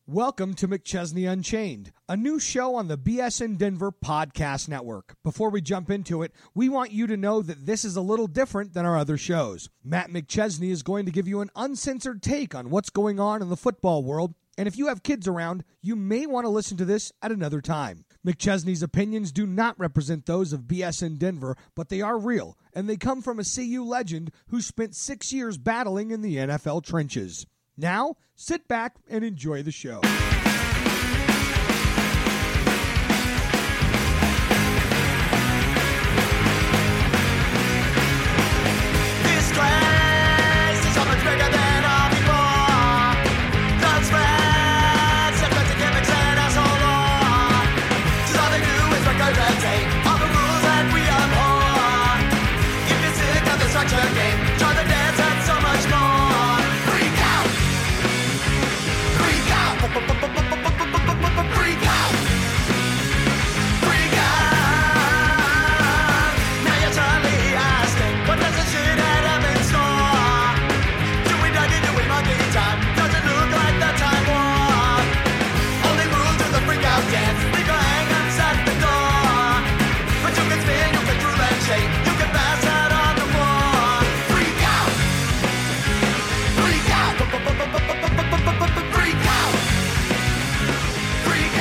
Welcome to McChesney Unchained, a new show on the BSN Denver Podcast Network. Before we jump into it, we want you to know that this is a little different than our other shows. Matt McChesney is going to give you an uncensored take on what's going on in the football world, and if you have kids around, you may want to listen to this at another time. McChesney's opinions do not represent those of BSN Denver, but they are real, and they come from a CU legend who spent 6 years battling in the NFL trenches. Now, sit back and enjoy the show. This class is so much bigger than all before. Those friends have got to get mixed and us all on. So all they do is regurgitate all the rules that we abhor. If you're sick of the structured game, join the dance and so much more. Freak out! Freak out! Freak out! Freak out! Now you're suddenly asking, what does this shit have in store? Do we dug it, do we monkey time? Does it look like the time war? Only rule to the freak out dance, leave your hang-ups at the door. But you can spin, you can drool and shake, you can pass out on the floor. Freak out! Freak out! Freak out! Freak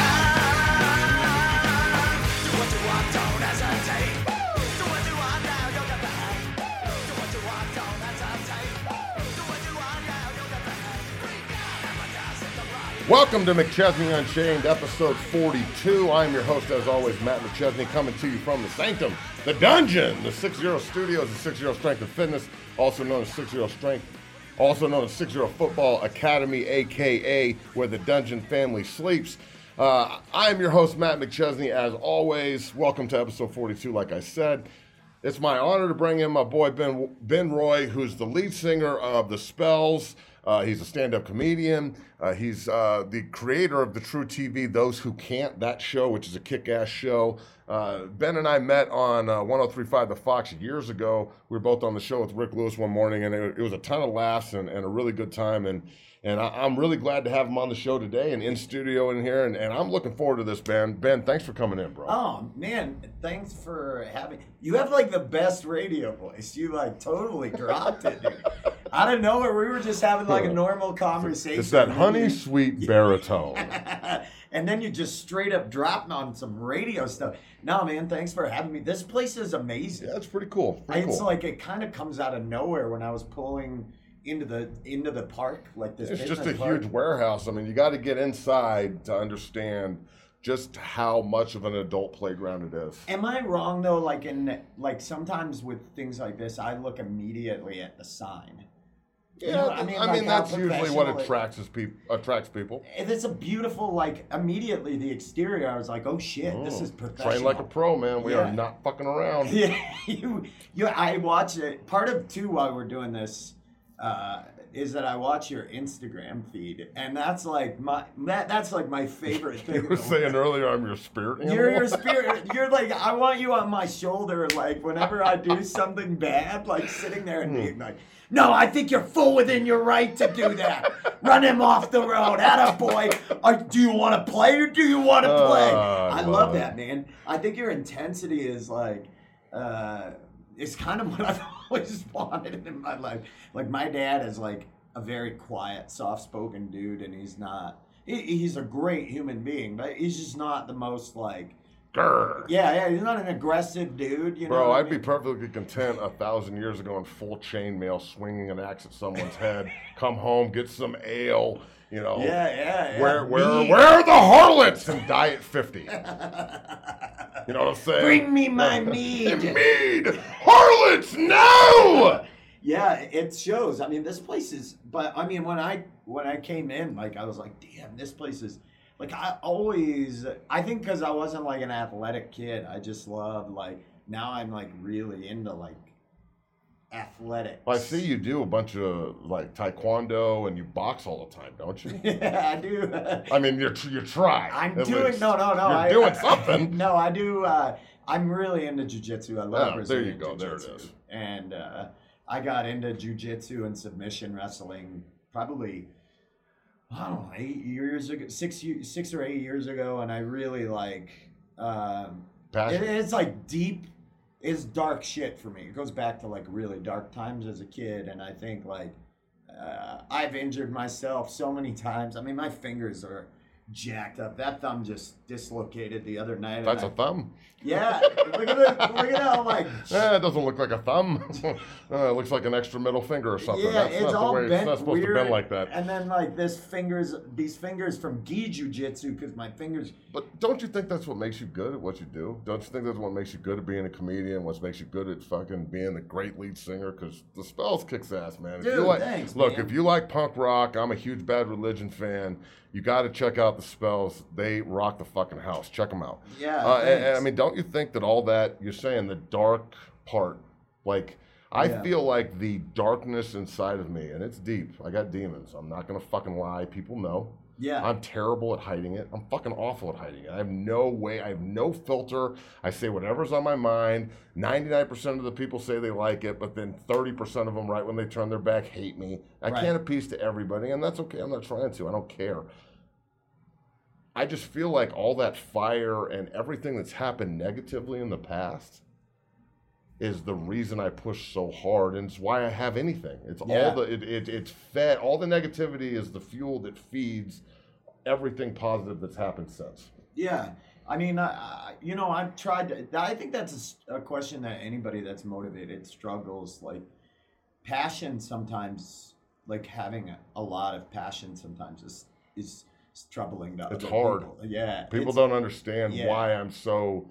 out! Do what you want, don't hesitate. Do what you want now, you'll get the hang. Do what you want, don't hesitate. Do what you want now, you'll get the hang. Freak out! Have a gas in the right. Welcome to McChesney Unchained, episode 42. I'm your host, as always, Matt McChesney, coming to you from the Sanctum, the Dungeon, the 6-0 Studios, the 6-0 Strength and Fitness, also known as 6-0 Strength, also known as 6-0 Football Academy, a.k.a. where the Dungeon family sleeps. I am your host, Matt McChesney, as always. Welcome to episode 42, like I said. It's my honor to bring in my boy, Ben Roy, who's the lead singer of The Spells. He's a stand-up comedian. He's the creator of the True TV, Those Who Can't, that show, which is a kick-ass show. Ben and I met on 103.5 The Fox years ago. We were both on the show with Rick Lewis one morning, and it was a ton of laughs and a really good time. And I'm really glad to have him on the show today and in studio in here. And I'm looking forward to this, Ben. Ben, thanks for coming in, bro. Oh, man, thanks for having... You have, like, the best radio voice. You, like, totally dropped it, dude. Out of nowhere, we were just having, like, a normal conversation. It's that honey sweet baritone. And then you just straight up dropped on some radio stuff. No, man, thanks for having me. This place is amazing. Yeah, it's pretty cool. It's like it kind of comes out of nowhere when I was pulling into the park, like this. It's just a park. huge warehouse. I mean, you got to get inside to understand just how much of an adult playground it is. Am I wrong though? Like sometimes with things like this, I look immediately at the sign. Yeah, You know, I mean like how that's usually what professional attracts people. And it's a beautiful, like, immediately the exterior, I was like, oh shit, this is professional. Train like a pro, man. We are Yeah. not fucking around. Yeah, I watch it. Part of too why we're doing this is that I watch your Instagram feed, and that's like my favorite thing. You were saying earlier, I'm your spirit animal. You're your spirit. You're like, I want you on my shoulder, like whenever I do something bad, like sitting there and being like, no, I think you're full within your right to do that. Run him off the road. Attaboy. Do you want to play or do you want to play? I love that, man. I think your intensity is like, it's kind of what I've always wanted in my life. Like, my dad is like a very quiet, soft-spoken dude, and he's not, he's a great human being, but he's just not the most like, Grr. yeah, he's not an aggressive dude, you know. Bro, what I I'd be mean? perfectly content 1,000 years ago in full chainmail, swinging an axe at someone's head. Come home, get some ale, you know. Yeah. Where are the harlots? And die at 50. You know what I'm saying? Bring me my mead. Mead! Harlots, no! Yeah, it shows. I mean, this place is. But I mean, when I came in, like, I was like, damn, this place is. Like, I think because I wasn't like an athletic kid, I just loved, like, now I'm like really into like athletics. Well, I see you do a bunch of like taekwondo and you box all the time, don't you? Yeah, I do. I mean, you try. I'm at doing least. no. You're doing something. No, I do. I'm really into jiu-jitsu. I love Brazilian there you go. jiu-jitsu. There it is. And I got into jiu-jitsu and submission wrestling probably, I don't know, 8 years ago, 6 or 8 years ago, and I really like. Passion. It's like deep. It's dark shit for me. It goes back to like really dark times as a kid, and I think like I've injured myself so many times. I mean, my fingers are jacked up. That thumb just dislocated the other night. That's a thumb. Yeah, look at how like. It doesn't look like a thumb. It looks like an extra middle finger or something. Yeah, That's it's not all the way. bent It's not supposed weird. to bend like that. And then like these fingers from gi jujitsu, because my fingers. But don't you think that's what makes you good at what you do? Don't you think that's what makes you good at being a comedian? What makes you good at fucking being a great lead singer? Because the Spells kicks ass, man. If Dude, you like, thanks, look, man. if you like punk rock, I'm a huge Bad Religion fan. You got to check out the Spells. They rock the fucking house. Check them out. Yeah, and, thanks. I mean, don't you think that all that you're saying, the dark part, like I Yeah. feel like the darkness inside of me, and it's deep. I got demons. I'm not gonna fucking lie. People know. Yeah. I'm terrible at hiding it. I'm fucking awful at hiding it. I have no way. I have no filter. I say whatever's on my mind. 99% of the people say they like it, but then 30% of them, right when they turn their back, hate me. I Right. can't appease to everybody, and that's okay. I'm not trying to. I don't care. I just feel like all that fire and everything that's happened negatively in the past is the reason I push so hard, and it's why I have anything. It's Yeah. all it's fed. All the negativity is the fuel that feeds everything positive that's happened since. Yeah, I mean, I've tried to. I think that's a question that anybody that's motivated struggles. Like, passion sometimes, like having a lot of passion sometimes is troubling to It's other hard. people. Yeah, People it's- don't understand yeah. why I'm so,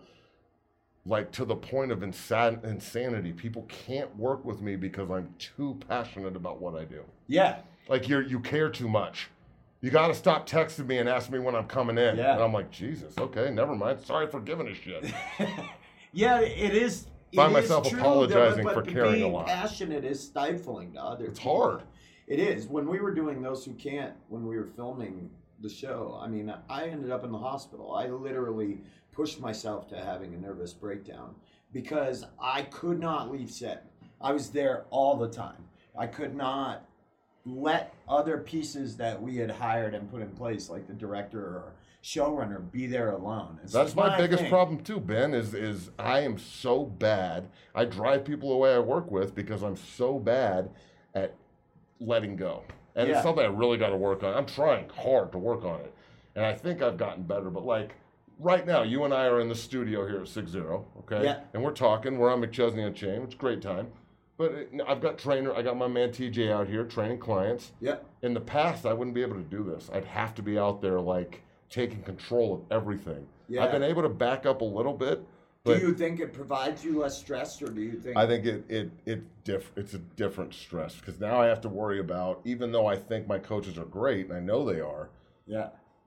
like, to the point of insanity. People can't work with me because I'm too passionate about what I do. Yeah, Like, you care too much. You got to stop texting me and ask me when I'm coming in. Yeah. And I'm like, Jesus, okay, never mind. Sorry for giving a shit. yeah, it is. Find it is myself true, apologizing but for caring a being lot. passionate is stifling to other. It's people. hard. It is. When we were doing Those Who Can't, when we were filming the show, I mean, I ended up in the hospital. I literally pushed myself to having a nervous breakdown because I could not leave set. I was there all the time. I could not let other pieces that we had hired and put in place, like the director or showrunner, be there alone. It's That's just my biggest thing. problem too, Ben, is I am so bad. I drive people away I work with because I'm so bad at letting go. And Yeah. it's something I really got to work on. I'm trying hard to work on it. And I think I've gotten better. But like right now, you and I are in the studio here at 6-0, okay? Yeah. And we're talking. We're on McChesney Unchained. It's a great time. But I got my man TJ out here training clients. Yeah. In the past, I wouldn't be able to do this. I'd have to be out there like taking control of everything. Yeah. I've been able to back up a little bit, Do but you think it provides you less stress, or do you think? I think it's a different stress because now I have to worry about, even though I think my coaches are great and I know they are, Yeah.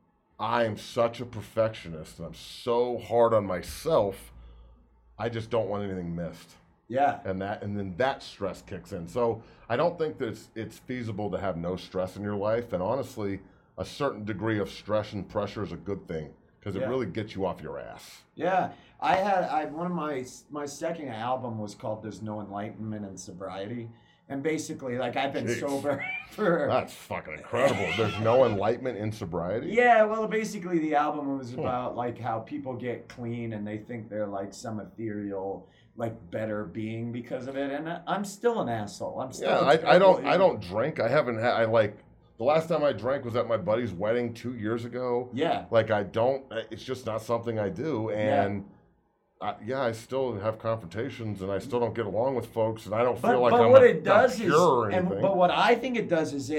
I am such a perfectionist and I'm so hard on myself. I just don't want anything missed. Yeah. And then that stress kicks in. So I don't think that it's feasible to have no stress in your life. And honestly, a certain degree of stress and pressure is a good thing because it Yeah. really gets you off your ass. Yeah, one of my second album was called "There's No Enlightenment in Sobriety," and basically, like, I've been Jeez. sober for. That's fucking incredible. There's no enlightenment in sobriety. Yeah, well, basically, the album was about like how people get clean and they think they're like some ethereal, like better being because of it, and I'm still an asshole. I'm still. Yeah, a I terrible don't drink. I haven't had. The last time I drank was at my buddy's wedding 2 years ago. Yeah. Like I don't. It's just not something I do, and. I still have confrontations, and I still don't get along with folks, and I don't feel like but I'm what not it does is, pure or anything. but what I think it does is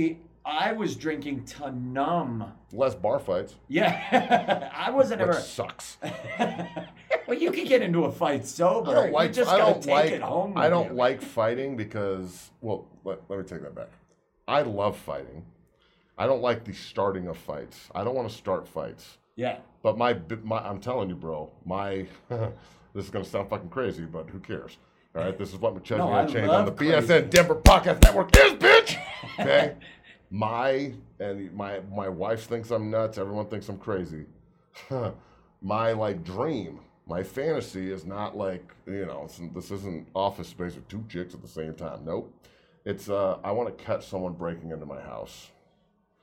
I was drinking to numb. Less bar fights, Yeah, I wasn't which ever. sucks. Well, you can get into a fight sober. I don't like. You just I gotta don't take like. it home. I with don't you. like fighting because. Well, let me take that back. I love fighting. I don't like the starting of fights. I don't want to start fights. Yeah. But my I'm telling you, bro. This is gonna sound fucking crazy, but who cares? All right, this is what McChesney No, I Unchained on the love crazy. BSN Denver Podcast Network is, bitch. Okay. My wife thinks I'm nuts. Everyone thinks I'm crazy. My dream, my fantasy is not like, this isn't Office Space with two chicks at the same time. Nope. It's I want to catch someone breaking into my house.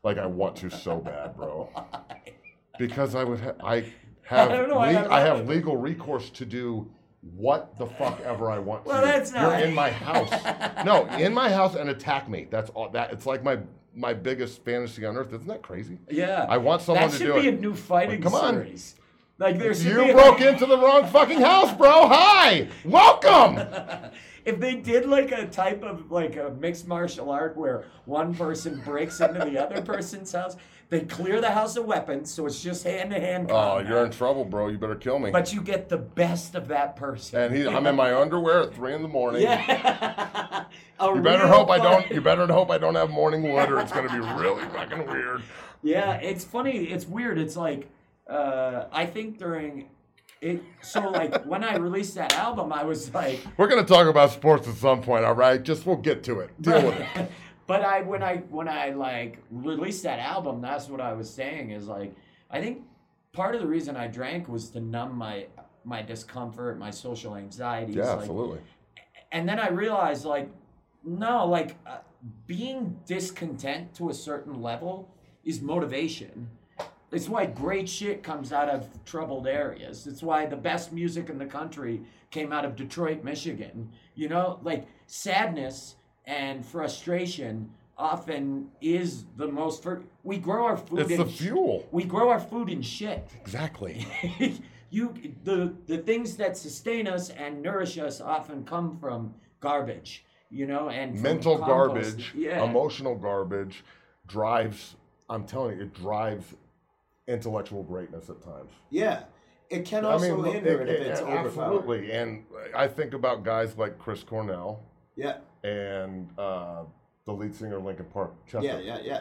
Like I want to so bad, bro. Because I have don't know why I love it. legal recourse to do what the fuck ever I want Well, to. that's not- You're in my house. No, in my house and attack me. That's all. That it's like my biggest fantasy on earth. Isn't that crazy? Yeah. I want someone that to do should be it. a new fighting Come on. series. Like there should be You broke into the wrong fucking house, bro. Hi, welcome. If they did like a type of like a mixed martial art where one person breaks into the other person's house, they clear the house of weapons, so it's just hand-to-hand Oh, combat. you're in trouble, bro. You better kill me. But you get the best of that person. And I'm in my underwear at 3 a.m. Yeah. You better hope I don't have morning wood, or it's gonna be really fucking weird. Yeah, it's funny. It's weird. It's like I think during it. So like when I released that album, I was like, We're gonna talk about sports at some point, all right? Just we'll get to it. Deal with it. But when I like released that album, that's what I was saying is like I think part of the reason I drank was to numb my discomfort, my social anxieties. Yeah, like, absolutely. And then I realized like no, like being discontent to a certain level is motivation. It's why great shit comes out of troubled areas. It's why the best music in the country came out of Detroit, Michigan. You know, like sadness and frustration often is the most. We grow our food. It's in the fuel. We grow our food in shit. Exactly. The things that sustain us and nourish us often come from garbage. You know, and from Mental compost. garbage, Yeah. emotional garbage drives. I'm telling you, it drives intellectual greatness at times. Yeah. It can also hinder it if it's overpowered. absolutely. And I think about guys like Chris Cornell Yeah. and the lead singer of Linkin Park, Chester. Yeah.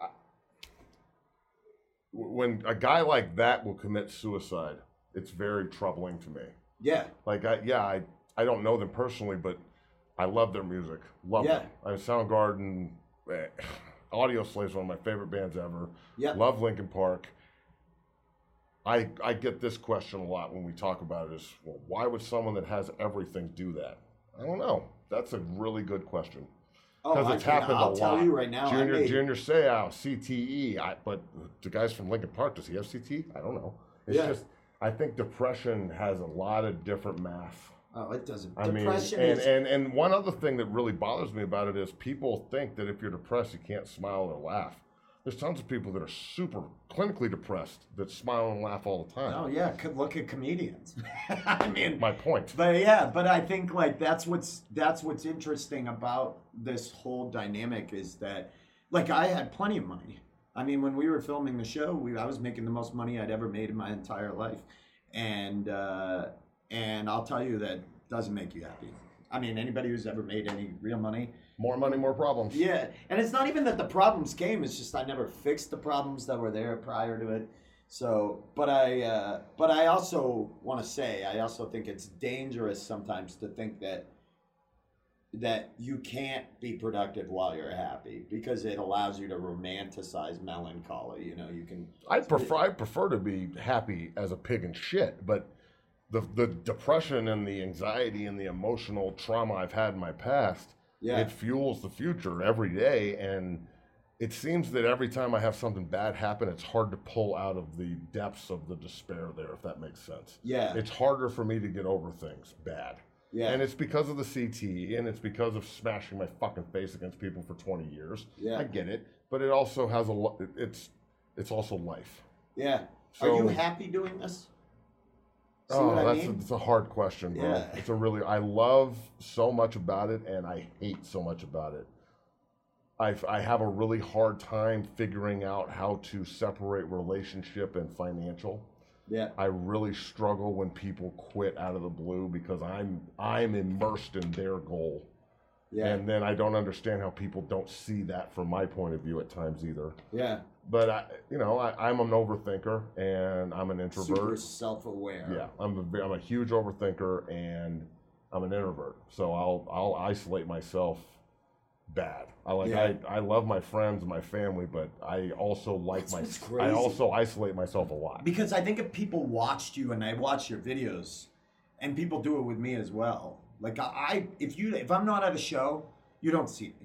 When a guy like that will commit suicide, it's very troubling to me. Yeah. Like, I don't know them personally, but I love their music. Love Yeah. them. Soundgarden, Audio Slave's one of my favorite bands ever. Yeah. Love Linkin Park. I get this question a lot when we talk about it is, well, why would someone that has everything do that? I don't know. That's a really good question. Because it's happened I'll a lot. tell you right now. Junior Seau, CTE. But the guys from Linkin Park, does he have CTE? I don't know. It's just, I think depression has a lot of different math. Oh, it doesn't. I mean, Depression is. and one other thing that really bothers me about it is people think that if you're depressed, you can't smile or laugh. There's tons of people that are super clinically depressed that smile and laugh all the time. Oh yeah, look at comedians. I mean, My point. but I think like that's what's interesting about this whole dynamic is that, like, I had plenty of money. I mean, when we were filming the show, I was making the most money I'd ever made in my entire life, and I'll tell you that doesn't make you happy. I mean, anybody who's ever made any real money. More money, more problems. Yeah, and it's not even that the problems came. It's just I never fixed the problems that were there prior to it. So, but I also want to say I also think it's dangerous sometimes to think that you can't be productive while you're happy because it allows you to romanticize melancholy. You know, you can. I prefer to be happy as a pig in shit, but the depression and the anxiety and the emotional trauma I've had in my past. Yeah. It fuels the future every day, and it seems that every time I have something bad happen, it's hard to pull out of the depths of the despair there, if that makes sense. Yeah. It's harder for me to get over things bad. Yeah. And it's because of the CTE, and it's because of smashing my fucking face against people for 20 years. Yeah. I get it, but it also has it's also life. Yeah. So- Are you happy doing this? See Oh, what I that's mean? it's a hard question, bro. Yeah. It's a really I love so much about it, and I hate so much about it. I have a really hard time figuring out how to separate relationship and financial. Yeah. I really struggle when people quit out of the blue because I'm immersed in their goal. Yeah. And then I don't understand how people don't see that from my point of view at times either. Yeah. But I'm an overthinker and I'm an introvert. Super self-aware. Yeah, I'm a huge overthinker and I'm an introvert. So I'll isolate myself bad. I love my friends and my family, but I also That's what's I crazy. also isolate myself a lot. Because I think if people watched you and I watch your videos, and people do it with me as well. Like if I'm not at a show, you don't see me.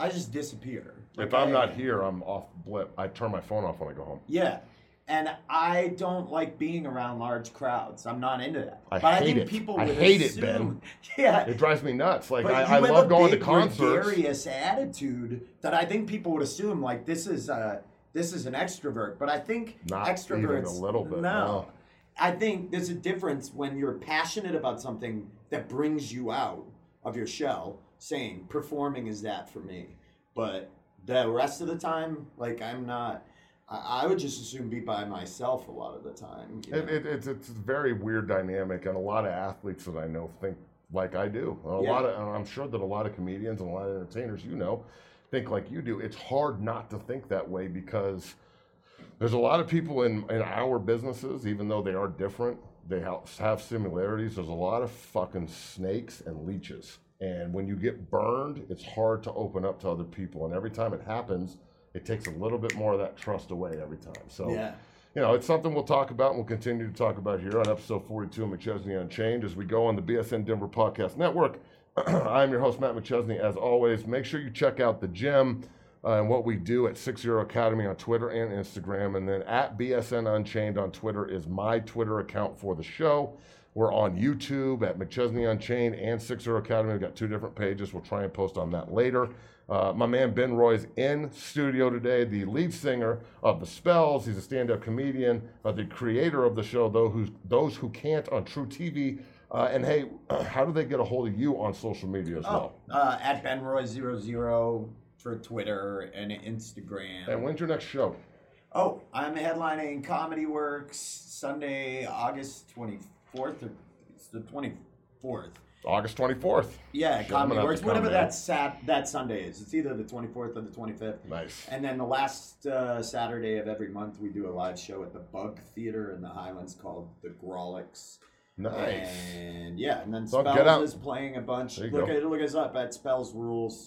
I just disappear. If I'm not here, I'm off blip. I turn my phone off when I go home. Yeah. And I don't like being around large crowds. I'm not into that. I but hate I think it. people I would hate assume, it, Ben. Yeah. It drives me nuts. Like, But I you have love a going to big, concerts. gregarious attitude that I think people would assume like this is an extrovert. But I think Not extroverts even a little bit, No. no. I think there's a difference when you're passionate about something that brings you out of your shell, saying performing is that for me. But the rest of the time, like I'm not. I would just assume be by myself a lot of the time. You know? It's a very weird dynamic, and a lot of athletes that I know think like I do. And I'm sure that a lot of comedians and a lot of entertainers, think like you do. It's hard not to think that way because there's a lot of people in our businesses, even though they are different, they have similarities. There's a lot of fucking snakes and leeches. And when you get burned, it's hard to open up to other people. And every time it happens, it takes a little bit more of that trust away every time. So, it's something we'll talk about and we'll continue to talk about here on episode 42 of McChesney Unchained as we go on the BSN Denver Podcast Network. I'm your host, Matt McChesney. As always, make sure you check out the gym and what we do at 60 Academy on Twitter and Instagram. And then at BSN Unchained on Twitter is my Twitter account for the show. We're on YouTube at McChesney Unchained and 60 Academy. We've got 2 different pages. We'll try and post on that later. My man Ben Roy's in studio today, the lead singer of The Spells. He's a stand-up comedian, the creator of the show, Those Who Can't on True TV. And hey, how do they get a hold of you on social media as well? At BenRoy00 for Twitter and Instagram. And when's your next show? Oh, I'm headlining Comedy Works Sunday, August 24th. It's the 24th. August 24th. Yeah, Sure, I'm Comedy gonna have Works. to come, Whatever man. that Sunday is. It's either the 24th or the 25th. Nice. And then the last Saturday of every month, we do a live show at the Bug Theater in the Highlands called the Grolics. Nice. And and then So get out. Spells is playing a bunch. There you Look us up at Spells Rules.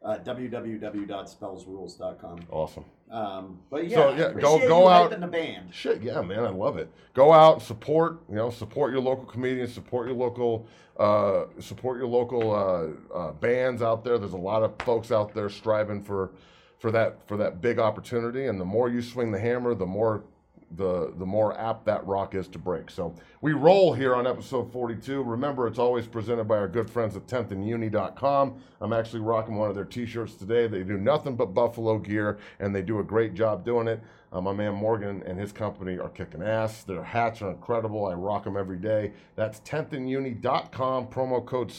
www.spellsrules.com. Awesome. But So, yeah, go out. in the band. Shit, yeah, man, I love it. Go out and support your local comedians, support your local bands out there. There's a lot of folks out there striving for that big opportunity, and the more you swing the hammer, the more apt that rock is to break. So we roll here on episode 42. Remember, it's always presented by our good friends at 10thanduni.com. I'm actually rocking one of their t-shirts today. They do nothing but Buffalo gear, and they do a great job doing it. My man Morgan and his company are kicking ass. Their hats are incredible. I rock them every day. That's 10thanduni.com, promo code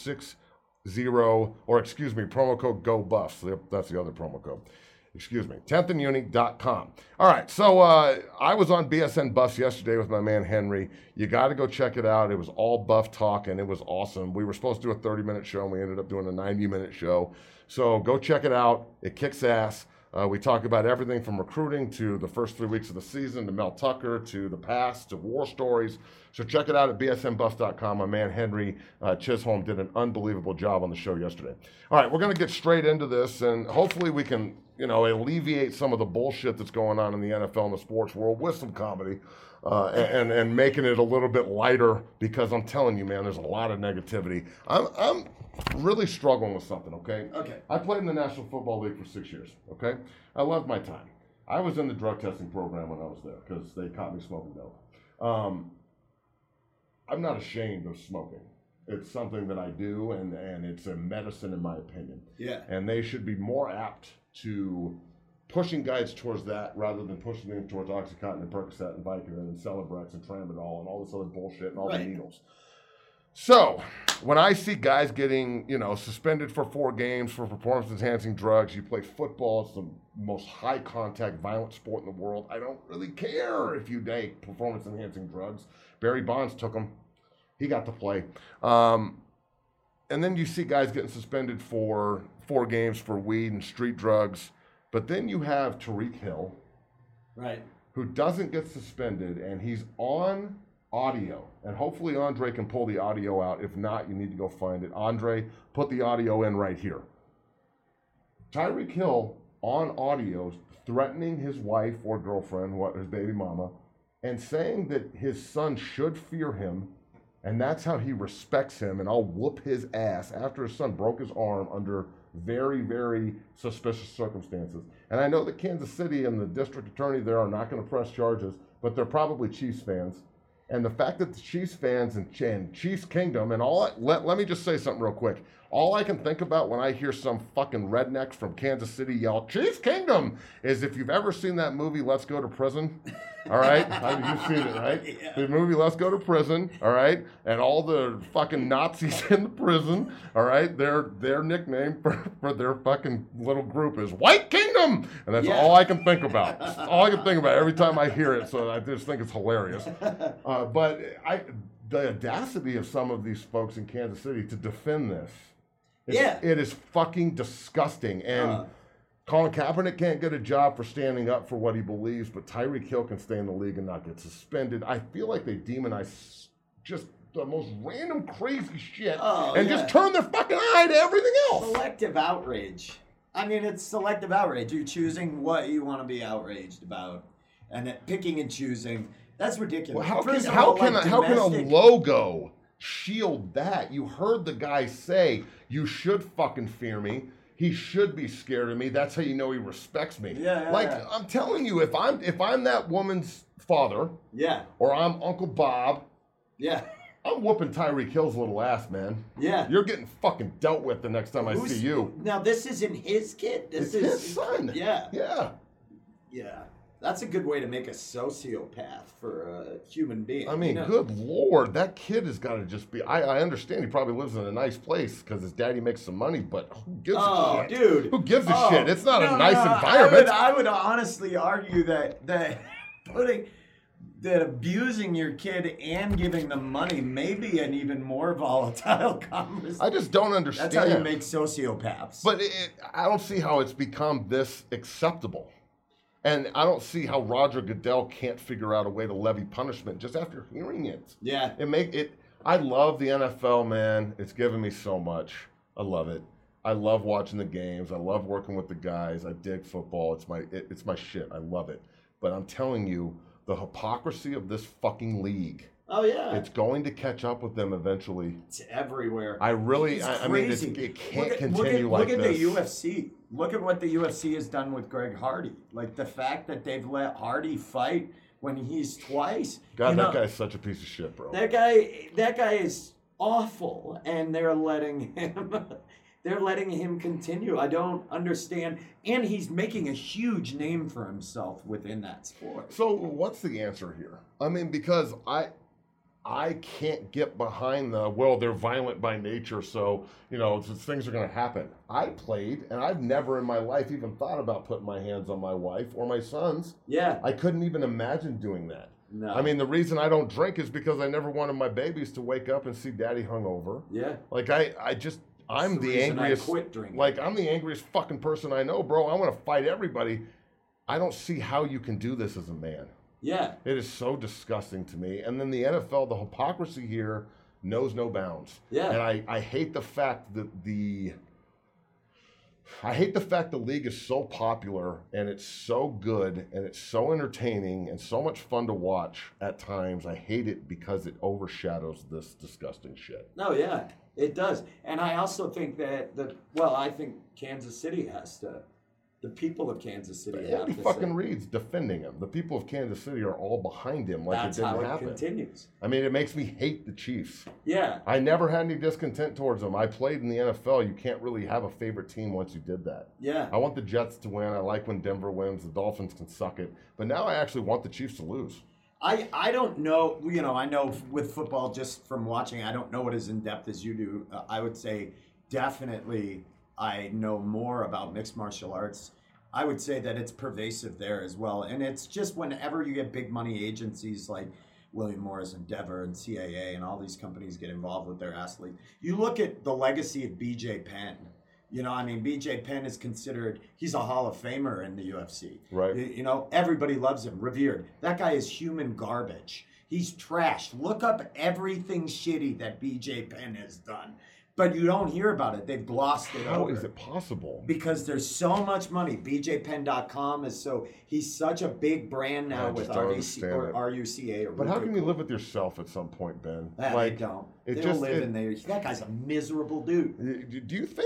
promo code GOBUFFS. That's the other promo code. 10thanduni.com. All right, so I was on BSN Buffs yesterday with my man Henry. You got to go check it out. It was all Buff talk, and it was awesome. We were supposed to do a 30-minute show, and we ended up doing a 90-minute show. So go check it out. It kicks ass. We talk about everything from recruiting to the first 3 weeks of the season to Mel Tucker to the past to war stories. So check it out at bsnbuffs.com. My man Henry Chisholm did an unbelievable job on the show yesterday. All right, we're going to get straight into this, and hopefully we can alleviate some of the bullshit that's going on in the NFL and the sports world with some comedy and making it a little bit lighter, because I'm telling you, man, there's a lot of negativity. I'm really struggling with something, okay? Okay. I played in the National Football League for 6 years, okay? I loved my time. I was in the drug testing program when I was there because they caught me smoking dope. I'm not ashamed of smoking. It's something that I do, and it's a medicine in my opinion. Yeah. And they should be more apt to pushing guys towards that rather than pushing them towards Oxycontin and Percocet and Vicodin and Celebrex and Tramadol and all this other bullshit and all the needles. So when I see guys getting, suspended for 4 games for performance-enhancing drugs, you play football, it's the most high-contact, violent sport in the world. I don't really care if you take performance-enhancing drugs. Barry Bonds took them. He got to play. And then you see guys getting suspended for 4 games for weed and street drugs. But then you have Tyreek Hill, right, who doesn't get suspended, and he's on audio. And hopefully Andre can pull the audio out. If not, you need to go find it. Andre, put the audio in right here. Tyreek Hill on audio threatening his wife or girlfriend, his baby mama, and saying that his son should fear him, and that's how he respects him, and I'll whoop his ass after his son broke his arm under very, very suspicious circumstances. And I know that Kansas City and the district attorney there are not going to press charges, but they're probably Chiefs fans. And the fact that the Chiefs fans and Chiefs Kingdom and all that, let me just say something real quick. All I can think about when I hear some fucking rednecks from Kansas City yell, Chiefs Kingdom, is if you've ever seen that movie, Let's Go to Prison, all right? You've seen it, right? Yeah. The movie Let's Go to Prison, all right? And all the fucking Nazis in the prison, all right? Their nickname for their fucking little group is White Kingdom! And that's all I can think about. That's all I can think about every time I hear it, so I just think it's hilarious. But the audacity of some of these folks in Kansas City to defend this. It is fucking disgusting. And Colin Kaepernick can't get a job for standing up for what he believes, but Tyreek Hill can stay in the league and not get suspended. I feel like they demonize just the most random crazy shit and just turn their fucking eye to everything else. Selective outrage. I mean, it's selective outrage. You're choosing what you want to be outraged about, and picking and choosing. That's ridiculous. Well, First of how all, can like, a logo shield that? You heard the guy say, "You should fucking fear me. He should be scared of me. That's how you know he respects me." I'm telling you, if I'm that woman's father, or I'm Uncle Bob, I'm whooping Tyreek Hill's little ass, man. You're getting fucking dealt with the next time I see you. Now this isn't his kid. This is his son. Yeah. That's a good way to make a sociopath for a human being. I mean, good Lord, that kid has got to just be... I understand he probably lives in a nice place because his daddy makes some money, but who gives a shit? Dude. Who gives a shit? It's not a nice environment. I would honestly argue that abusing your kid and giving them money may be an even more volatile conversation. I just don't understand. That's how you make sociopaths. But I don't see how it's become this acceptable. And I don't see how Roger Goodell can't figure out a way to levy punishment just after hearing it. I love the NFL, man. It's given me so much. I love it. I love watching the games. I love working with the guys. I dig football. It's my shit. I love it. But I'm telling you, the hypocrisy of this fucking league. It's going to catch up with them eventually. It's everywhere. I mean, it can't continue like this. Look at the UFC. Look at what the UFC has done with Greg Hardy. Like the fact that they've let Hardy fight when he's twice. God, that guy's such a piece of shit, bro. That guy is awful, and they're letting him continue. I don't understand. And he's making a huge name for himself within that sport. So what's the answer here? I mean, because I can't get behind they're violent by nature, so, things are going to happen. I played, and I've never in my life even thought about putting my hands on my wife or my sons. I couldn't even imagine doing that. No. I mean, the reason I don't drink is because I never wanted my babies to wake up and see daddy hungover. Like, I'm the angriest. I quit drinking. Like, I'm the angriest fucking person I know, bro. I want to fight everybody. I don't see how you can do this as a man. It is so disgusting to me. And then the NFL, the hypocrisy here knows no bounds. And I hate the fact that the league is so popular and it's so good and it's so entertaining and so much fun to watch at times. I hate it because it overshadows this disgusting shit. It does. And I also think I think Kansas City has to. The people of Kansas City have Andy to fucking Reid's defending him. The people of Kansas City are all behind him like it didn't happen. That's how it continues. I mean, it makes me hate the Chiefs. Yeah. I never had any discontent towards them. I played in the NFL. You can't really have a favorite team once you did that. Yeah. I want the Jets to win. I like when Denver wins. The Dolphins can suck it. But now I actually want the Chiefs to lose. I don't know. I know with football, just from watching, I don't know it as in-depth as you do. I would say definitely I know more about mixed martial arts. I would say that it's pervasive there as well. And it's just whenever you get big money agencies like William Morris, Endeavor, and CAA, and all these companies get involved with their athletes, you look at the legacy of BJ Penn. BJ Penn is considered, he's a Hall of Famer in the UFC. Right. Everybody loves him, revered. That guy is human garbage. He's trashed. Look up everything shitty that BJ Penn has done. But you don't hear about it. They've glossed it over. How is it possible? Because there's so much money. BJPenn.com he's such a big brand now with RUCA. But how can you live with yourself at some point, Ben? They don't. They don't live in there. That guy's a miserable dude. Do you think?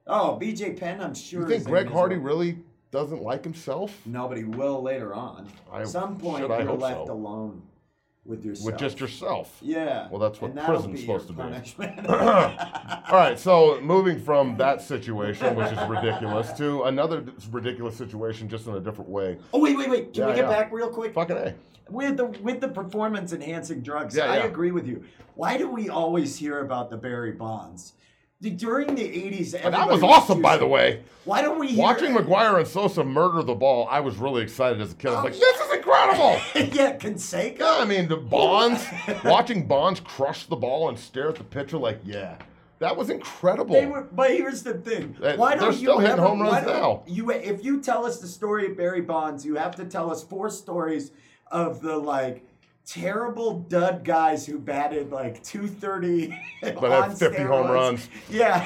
Oh, BJ Penn, I'm sure. You think is Greg in Hardy miserable. really doesn't like himself? No, but he will later on. Some point I you're hope left so. alone with yourself. With just yourself. Yeah. Well, that's what and that'll prison's be supposed your to be. punishment. All right, so moving from that situation, which is ridiculous, to another ridiculous situation just in a different way. Oh, wait. Can we Yeah, get back real quick? Fucking A. With the performance enhancing drugs, Yeah, I yeah. agree with you. Why do we always hear about the Barry Bonds? During the 80s, That was awesome, by the way. Why don't we hear... Watching McGuire and Sosa murder the ball, I was really excited as a kid. I was like, this is incredible! Yeah, Canseco? Yeah, I mean, the Bonds, watching Bonds crush the ball and stare at the pitcher like, yeah, that was incredible. But here's the thing. They're Why don't still hitting home runs now. If you tell us the story of Barry Bonds, you have to tell us 4 stories of the, terrible dud guys who batted 230 But on had 50 home steroids. runs. Yeah,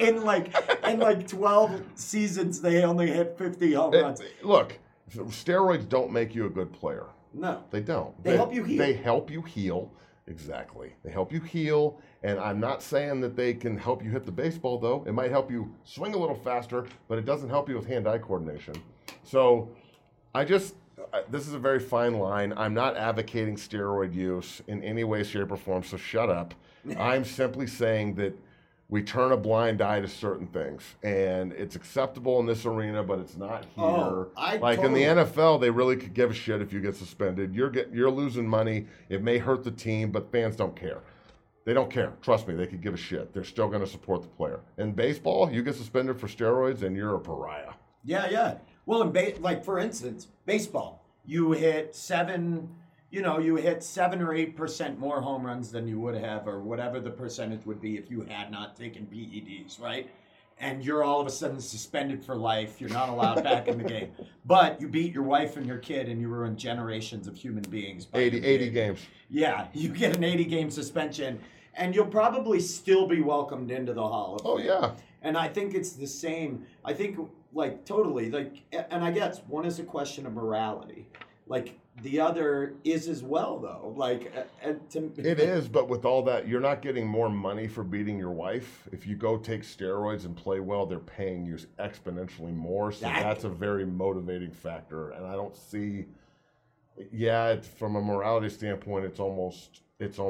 in 12 seasons they only hit 50 home runs. Look, steroids don't make you a good player. No. They don't. They help you heal. They help you heal. Exactly. They help you heal. And I'm not saying that they can help you hit the baseball, though. It might help you swing a little faster, but it doesn't help you with hand-eye coordination. So this is a very fine line. I'm not advocating steroid use in any way, shape, or form, so shut up. I'm simply saying that we turn a blind eye to certain things, and it's acceptable in this arena, but it's not here. Oh, in the NFL, they really could give a shit if you get suspended. You're losing money. It may hurt the team, but fans don't care. They don't care. Trust me, they could give a shit. They're still going to support the player. In baseball, you get suspended for steroids, and you're a pariah. Yeah. Well, for instance, baseball, you hit 7 or 8% more home runs than you would have, or whatever the percentage would be if you had not taken PEDs, right? And you're all of a sudden suspended for life. You're not allowed back in the game. But you beat your wife and your kid, and you ruined generations of human beings. by 80 games. Yeah, you get an 80-game suspension, and you'll probably still be welcomed into the Hall of Fame. Oh, yeah. And I think it's the same. I think, totally, and I guess one is a question of morality. The other is as well, though. It is, but with all that, you're not getting more money for beating your wife. If you go take steroids and play well, they're paying you exponentially more. So that's a very motivating factor. And I don't see, from a morality standpoint, it's almost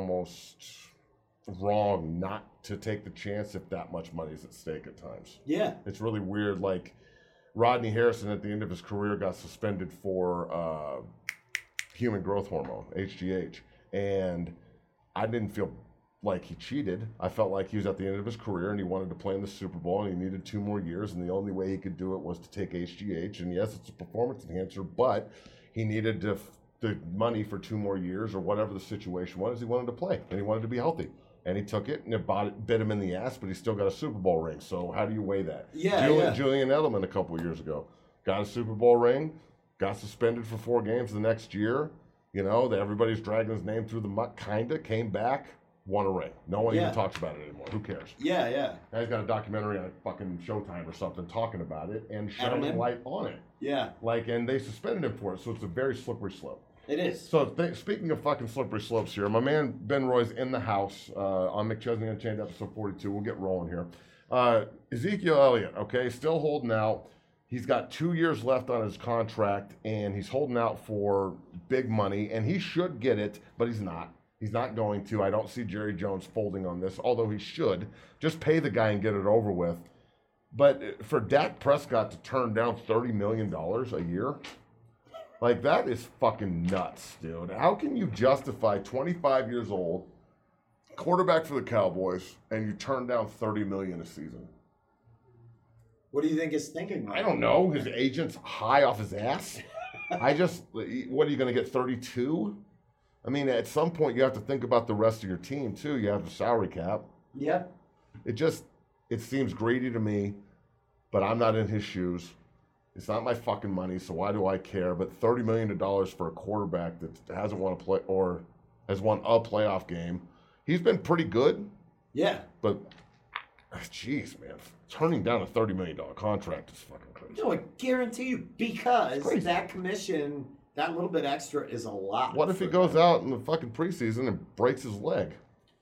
wrong not to take the chance if that much money is at stake at times. Yeah. It's really weird. Rodney Harrison at the end of his career got suspended for human growth hormone, HGH. And I didn't feel like he cheated. I felt like he was at the end of his career and he wanted to play in the Super Bowl and he needed 2 more years. And the only way he could do it was to take HGH. And yes, it's a performance enhancer, but he needed the money for 2 more years or whatever the situation was. He wanted to play and he wanted to be healthy. And he took it, and it bit him in the ass, but he still got a Super Bowl ring. So how do you weigh that? Julian Edelman a couple of years ago got a Super Bowl ring, got suspended for 4 games the next year. Everybody's dragging his name through the muck, came back, won a ring. No one even talks about it anymore. Who cares? Yeah. Now he's got a documentary on fucking Showtime or something talking about it and shining light on it. Yeah. And they suspended him for it, so it's a very slippery slope. It is. So speaking of fucking slippery slopes here, my man Ben Roy's in the house on McChesney Unchained episode 42. We'll get rolling here. Ezekiel Elliott, okay, still holding out. He's got 2 years left on his contract, and he's holding out for big money, and he should get it, but he's not. He's not going to. I don't see Jerry Jones folding on this, although he should. Just pay the guy and get it over with. But for Dak Prescott to turn down $30 million a year, that is fucking nuts, dude. How can you justify 25 years old, quarterback for the Cowboys, and you turn down $30 million a season? What do you think he's thinking? I don't know. His agent's high off his ass. What are you going to get, 32? I mean, at some point, you have to think about the rest of your team, too. You have a salary cap. Yeah. It seems greedy to me, but I'm not in his shoes. It's not my fucking money, so why do I care? But $30 million for a quarterback that hasn't won a play or has won a playoff game. He's been pretty good. Yeah. But, jeez, man. Turning down a $30 million contract is fucking crazy. No, I guarantee you, because that commission, that little bit extra is a lot. What if he goes out in the fucking preseason and breaks his leg?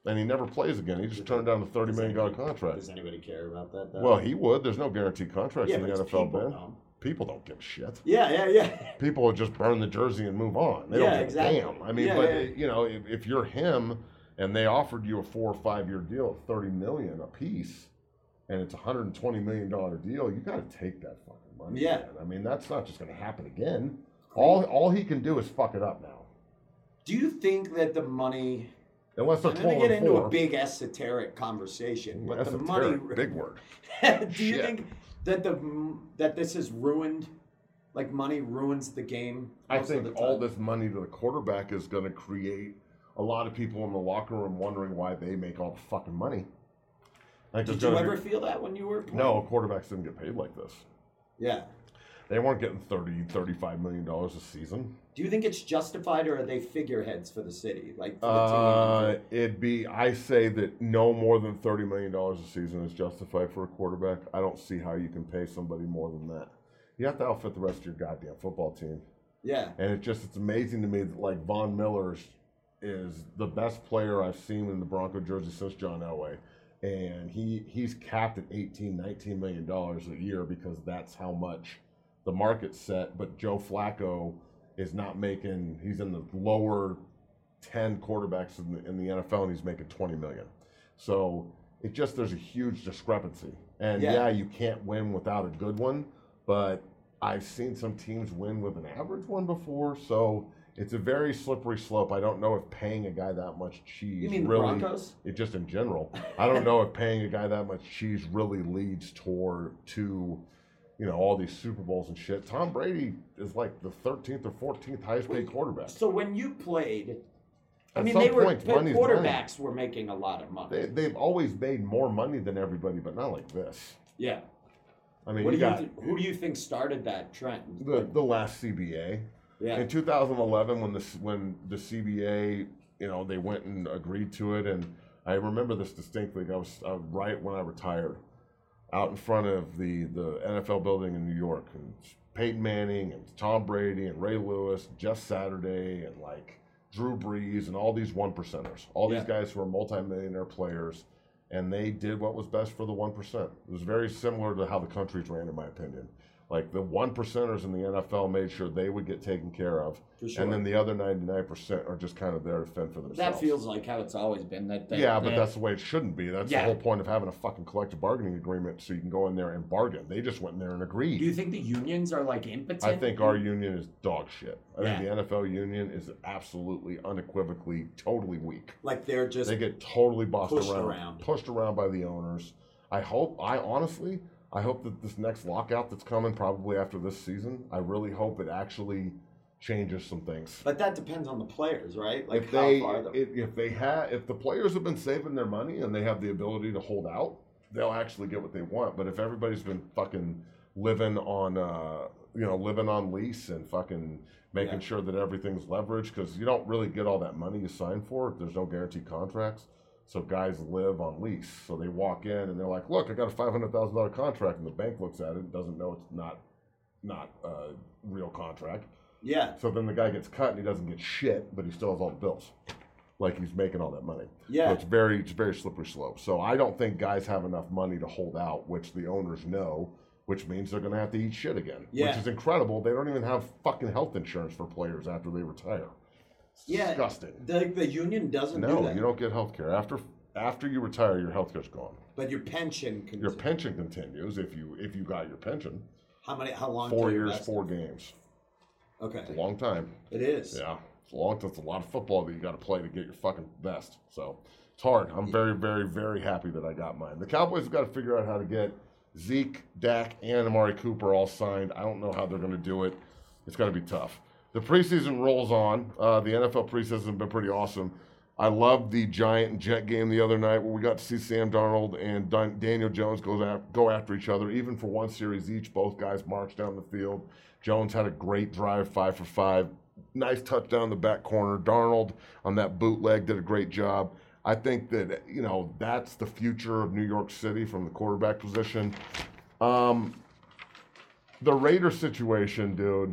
and he never plays again. He just turned down the $30 million contract. Does anybody care about that, though? Well, he would. There's no guaranteed contracts in the but NFL, people Ben. don't. People don't give a shit. Yeah. People would just burn the jersey and move on. They don't give exactly. a damn. I mean, you know, if you're him and they offered you a 4 or 5 year deal at $30 million a piece, and it's a $120 million deal, you got to take that fucking money. Yeah. Man. I mean, that's not just going to happen again. All he can do is fuck it up now. Do you think that the money? Unless they're I'm going 12 to get into 4. a big esoteric conversation, but the money. Esoteric, big word. Do you think that that this has ruined, like money ruins the game? I think all this money to the quarterback is going to create a lot of people in the locker room wondering why they make all the fucking money. Like, Did you ever feel that when you were playing? No, quarterbacks didn't get paid like this. Yeah. They weren't getting $35 million a season. Do you think it's justified, or are they figureheads for the city? Like for the team? I say that no more than $30 million a season is justified for a quarterback. I don't see how you can pay somebody more than that. You have to outfit the rest of your goddamn football team. Yeah. And it's amazing to me that, like, Von Miller is the best player I've seen in the Bronco jersey since John Elway. And he's capped at $18, $19 million a year because that's how much the market's set. But Joe Flacco is not making, he's in the lower 10 quarterbacks in the NFL, and he's making $20 million. So there's a huge discrepancy. And yeah, you can't win without a good one, but I've seen some teams win with an average one before. So it's a very slippery slope. I don't know if paying a guy that much cheese You mean really, the Broncos? just in general, I don't know if paying a guy that much cheese really leads to all these Super Bowls and shit. Tom Brady is like the 13th or 14th highest paid quarterback. So when you played, Money's quarterbacks were making a lot of money. They've always made more money than everybody, but not like this. Yeah. I mean, who do you think started that trend? The last CBA. Yeah. In 2011, when the CBA, they went and agreed to it, and I remember this distinctly. I was right when I retired, out in front of the NFL building in New York, and Peyton Manning and Tom Brady and Ray Lewis, Jeff Saturday, and like Drew Brees and all these 1%ers, all these guys who are multimillionaire players, and they did what was best for the 1%. It was very similar to how the country's ran, in my opinion. Like, the 1%ers in the NFL made sure they would get taken care of, For sure. and then the other 99% are just kind of there to fend for themselves. That feels like how it's always been. But that's the way it shouldn't be. That's the whole point of having a fucking collective bargaining agreement, so you can go in there and bargain. They just went in there and agreed. Do you think the unions are like impotent? I think our union is dog shit. I think the NFL union is absolutely, unequivocally, totally weak. Like they get totally pushed around by the owners. I hope that this next lockout that's coming, probably after this season, I really hope it actually changes some things. But that depends on the players, right? Like if the players have been saving their money and they have the ability to hold out, they'll actually get what they want. But if everybody's been fucking living on lease and fucking making sure that everything's leveraged, because you don't really get all that money you sign for if there's no guaranteed contracts. So guys live on lease. So they walk in and they're like, look, I got a $500,000 contract. And the bank looks at it and doesn't know it's not a real contract. Yeah. So then the guy gets cut and he doesn't get shit, but he still has all the bills. Like, he's making all that money. Yeah. So it's very slippery slope. So I don't think guys have enough money to hold out, which the owners know, which means they're going to have to eat shit again. Yeah. Which is incredible. They don't even have fucking health insurance for players after they retire. Disgusting. The union doesn't do that. No, you don't get health care. After you retire, your health care's gone. But your pension continues. Your pension continues if you got your pension. How long? 4 years, 4 games. Okay. It's a long time. It is. Yeah. It's a lot of football that you got to play to get your fucking vest. So it's hard. I'm very, very, very happy that I got mine. The Cowboys have got to figure out how to get Zeke, Dak, and Amari Cooper all signed. I don't know how they're going to do it. It's going to be tough. The preseason rolls on. The NFL preseason has been pretty awesome. I loved the Giant and Jet game the other night where we got to see Sam Darnold and Daniel Jones go after each other. Even for one series each, both guys marched down the field. Jones had a great drive, 5 for 5. Nice touchdown in the back corner. Darnold on that bootleg did a great job. I think that, that's the future of New York City from the quarterback position. The Raider situation, dude.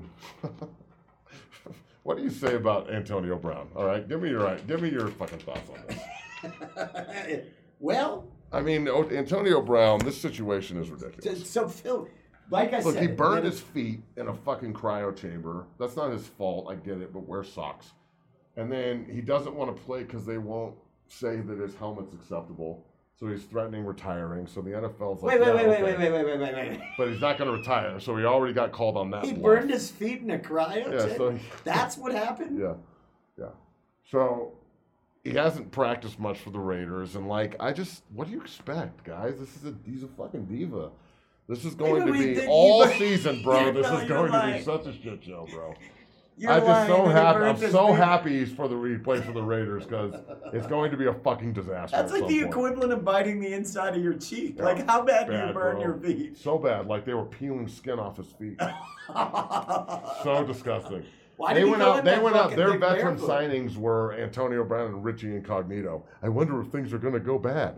What do you say about Antonio Brown? All right, give me your fucking thoughts on this. Well, I mean, Antonio Brown, this situation is ridiculous. so Phil, like I Look, said, he burned when- his feet in a fucking cryo chamber. That's not his fault. I get it, but wear socks. And then he doesn't want to play because they won't say that his helmet's acceptable. So he's threatening retiring. So the NFL's like, Wait, yeah, wait. okay. But he's not going to retire. So he already got called on that. He bluff. burned his feet in a cryo Yeah, chamber? so That's what happened? Yeah. So he hasn't practiced much for the Raiders, and like, what do you expect, guys? He's a fucking diva. This is going to be all season, bro. This is going to be such a shit show, bro. I'm just so happy. I'm so happy he plays for the Raiders because it's going to be a fucking disaster. That's like the equivalent of biting the inside of your cheek. Like, how bad do you burn your feet? So bad, like they were peeling skin off his feet. So disgusting. Why They did he went go out. in They that went out. fucking Their big veteran barefoot? signings were Antonio Brown and Richie Incognito. I wonder if things are going to go bad.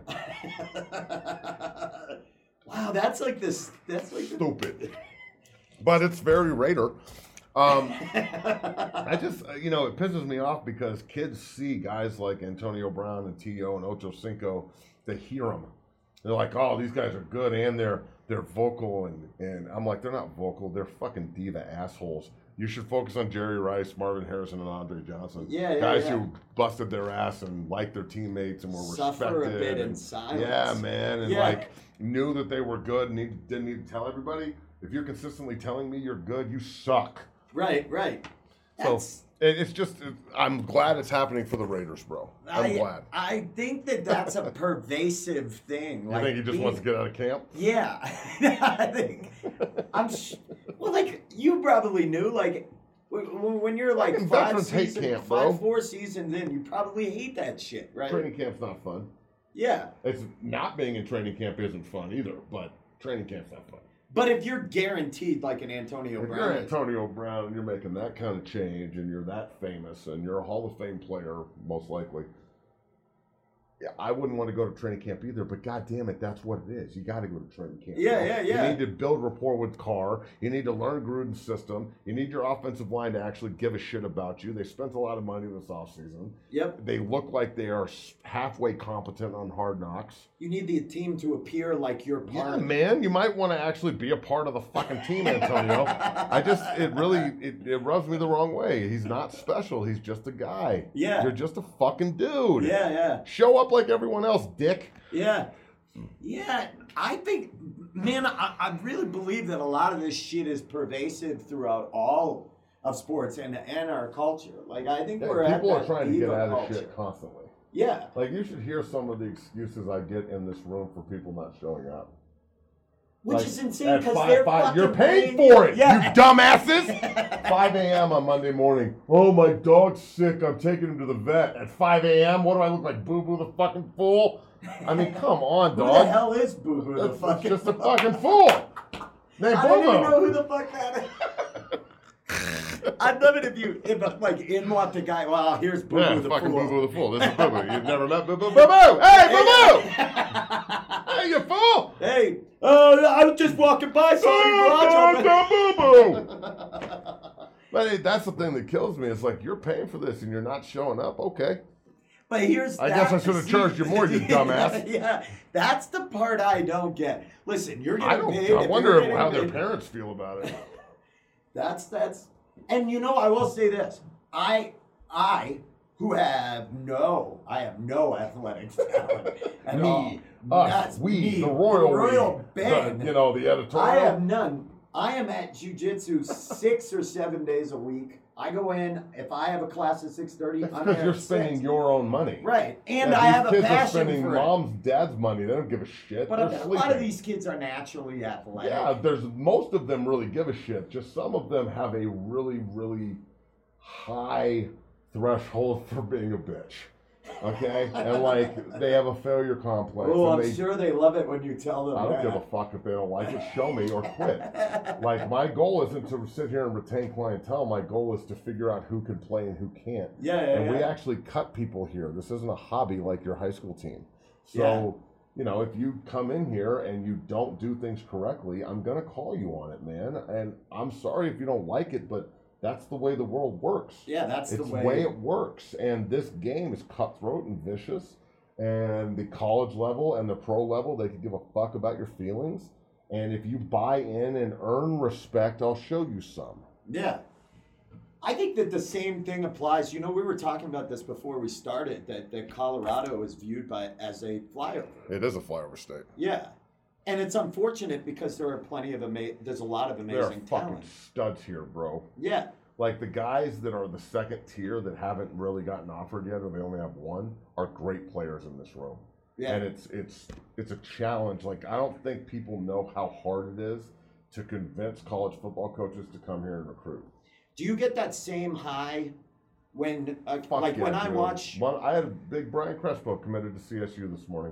Wow, that's like this. That's like Stupid. But it's very Raider. I just, it pisses me off because kids see guys like Antonio Brown and T.O. and Ocho Cinco. They hear them. They're like, oh, these guys are good, and they're vocal, and I'm like, they're not vocal. They're fucking diva assholes. You should focus on Jerry Rice, Marvin Harrison, and Andre Johnson. Guys who busted their ass and liked their teammates and were Suffer respected. a bit in and, silence. Yeah, man, and knew that they were good and didn't need to tell everybody. If you're consistently telling me you're good, you suck. Right. So it's just, I'm glad it's happening for the Raiders, bro. I'm glad. I think that's a pervasive thing. You think he just wants to get out of camp? Yeah, I think. Well, like you probably knew, like when you're like Fucking veterans hate camp, bro. 4 seasons in, you probably hate that shit, right? Training camp's not fun. Yeah. It's not being in training camp isn't fun either, but training camp's not fun. But if you're guaranteed like an Antonio If Brown, you're Antonio Brown and you're making that kind of change and you're that famous and you're a Hall of Fame player, most likely, yeah, I wouldn't want to go to training camp either, but God damn it, that's what it is. You got to go to training camp. Yeah. You need to build rapport with Carr. You need to learn Gruden's system. You need your offensive line to actually give a shit about you. They spent a lot of money this offseason. Yep. They look like they are halfway competent on Hard Knocks. You need the team to appear like you're part Yeah, of it. man, you might want to actually be a part of the fucking team, Antonio. It rubs me the wrong way. He's not special. He's just a guy. Yeah. You're just a fucking dude. Yeah. Show up like everyone else, dick. Yeah. I think, man, I really believe that a lot of this shit is pervasive throughout all of sports and our culture. Like, I think we're at People are that trying to get diva out of culture. shit constantly. Yeah. Like, you should hear some of the excuses I get in this room for people not showing up. Which Like, is insane at because five- they're five- fucking you're paying paying for it, Yeah. you dumbasses! 5 a.m. on Monday morning. Oh, my dog's sick. I'm taking him to the vet. At 5 a.m.? What do I look like, Boo Boo the fucking fool? I mean, come on, Who the dog. hell is Boo Boo the That's fucking just a fucking fool. Named I don't even know Bobo. who the fuck that is. I'd love it if like in walked the guy. Well, here's Boo Yeah, Boo the fucking fool. Boo Boo the fool. This is Boo Boo. You've never met Boo Boo. Boo Boo! Hey, Boo Boo! Hey, you fool! Hey, I was just walking by, saw your garage open. Boo Boo! But hey, that's the thing that kills me. It's like, you're paying for this and you're not showing up. Okay. But here's I guess I should have charged you more, you dumbass. Yeah, that's the part I don't get. Listen, you're getting paid. I if wonder you're getting how their paid- parents feel about it. That's and I will say this. I who have no athletic talent at all. That's me, the royal band. the editorial. I have none. I am at jiu-jitsu 6 or 7 days a week. I go in, if I have a class at 6:30, That's I'm because there you're at spending 6. your own money. Right, and Yeah, I have a these kids are passion spending for it. mom's, dad's money. They don't give a shit. But They're a lot sleeping. of these kids are naturally athletic. Yeah, most of them really give a shit. Just some of them have a really, really high threshold for being a bitch. Okay? And like, they have a failure complex. Oh, and I'm sure they love it when you tell them I don't that. give a fuck if they don't like it. Show me or quit. Like, my goal isn't to sit here and retain clientele. My goal is to figure out who can play and who can't. And we actually cut people here. This isn't a hobby like your high school team. So, if you come in here and you don't do things correctly, I'm going to call you on it, man. And I'm sorry if you don't like it, but that's the way the world works. Yeah, that's it's the way it works. And this game is cutthroat and vicious. And the college level and the pro level, they could give a fuck about your feelings. And if you buy in and earn respect, I'll show you some. Yeah. I think that the same thing applies. You know, we were talking about this before we started, that Colorado is viewed as a flyover. It is a flyover state. Yeah. And it's unfortunate because there are there's a lot of There are amazing fucking talent. studs here, bro. Yeah. Like the guys that are the second tier that haven't really gotten offered yet, or they only have one, are great players in this room. Yeah. And it's a challenge. Like I don't think people know how hard it is to convince college football coaches to come here and recruit. Do you get that same high when, when I dude. watch? I had a big Brian Crespo committed to CSU this morning,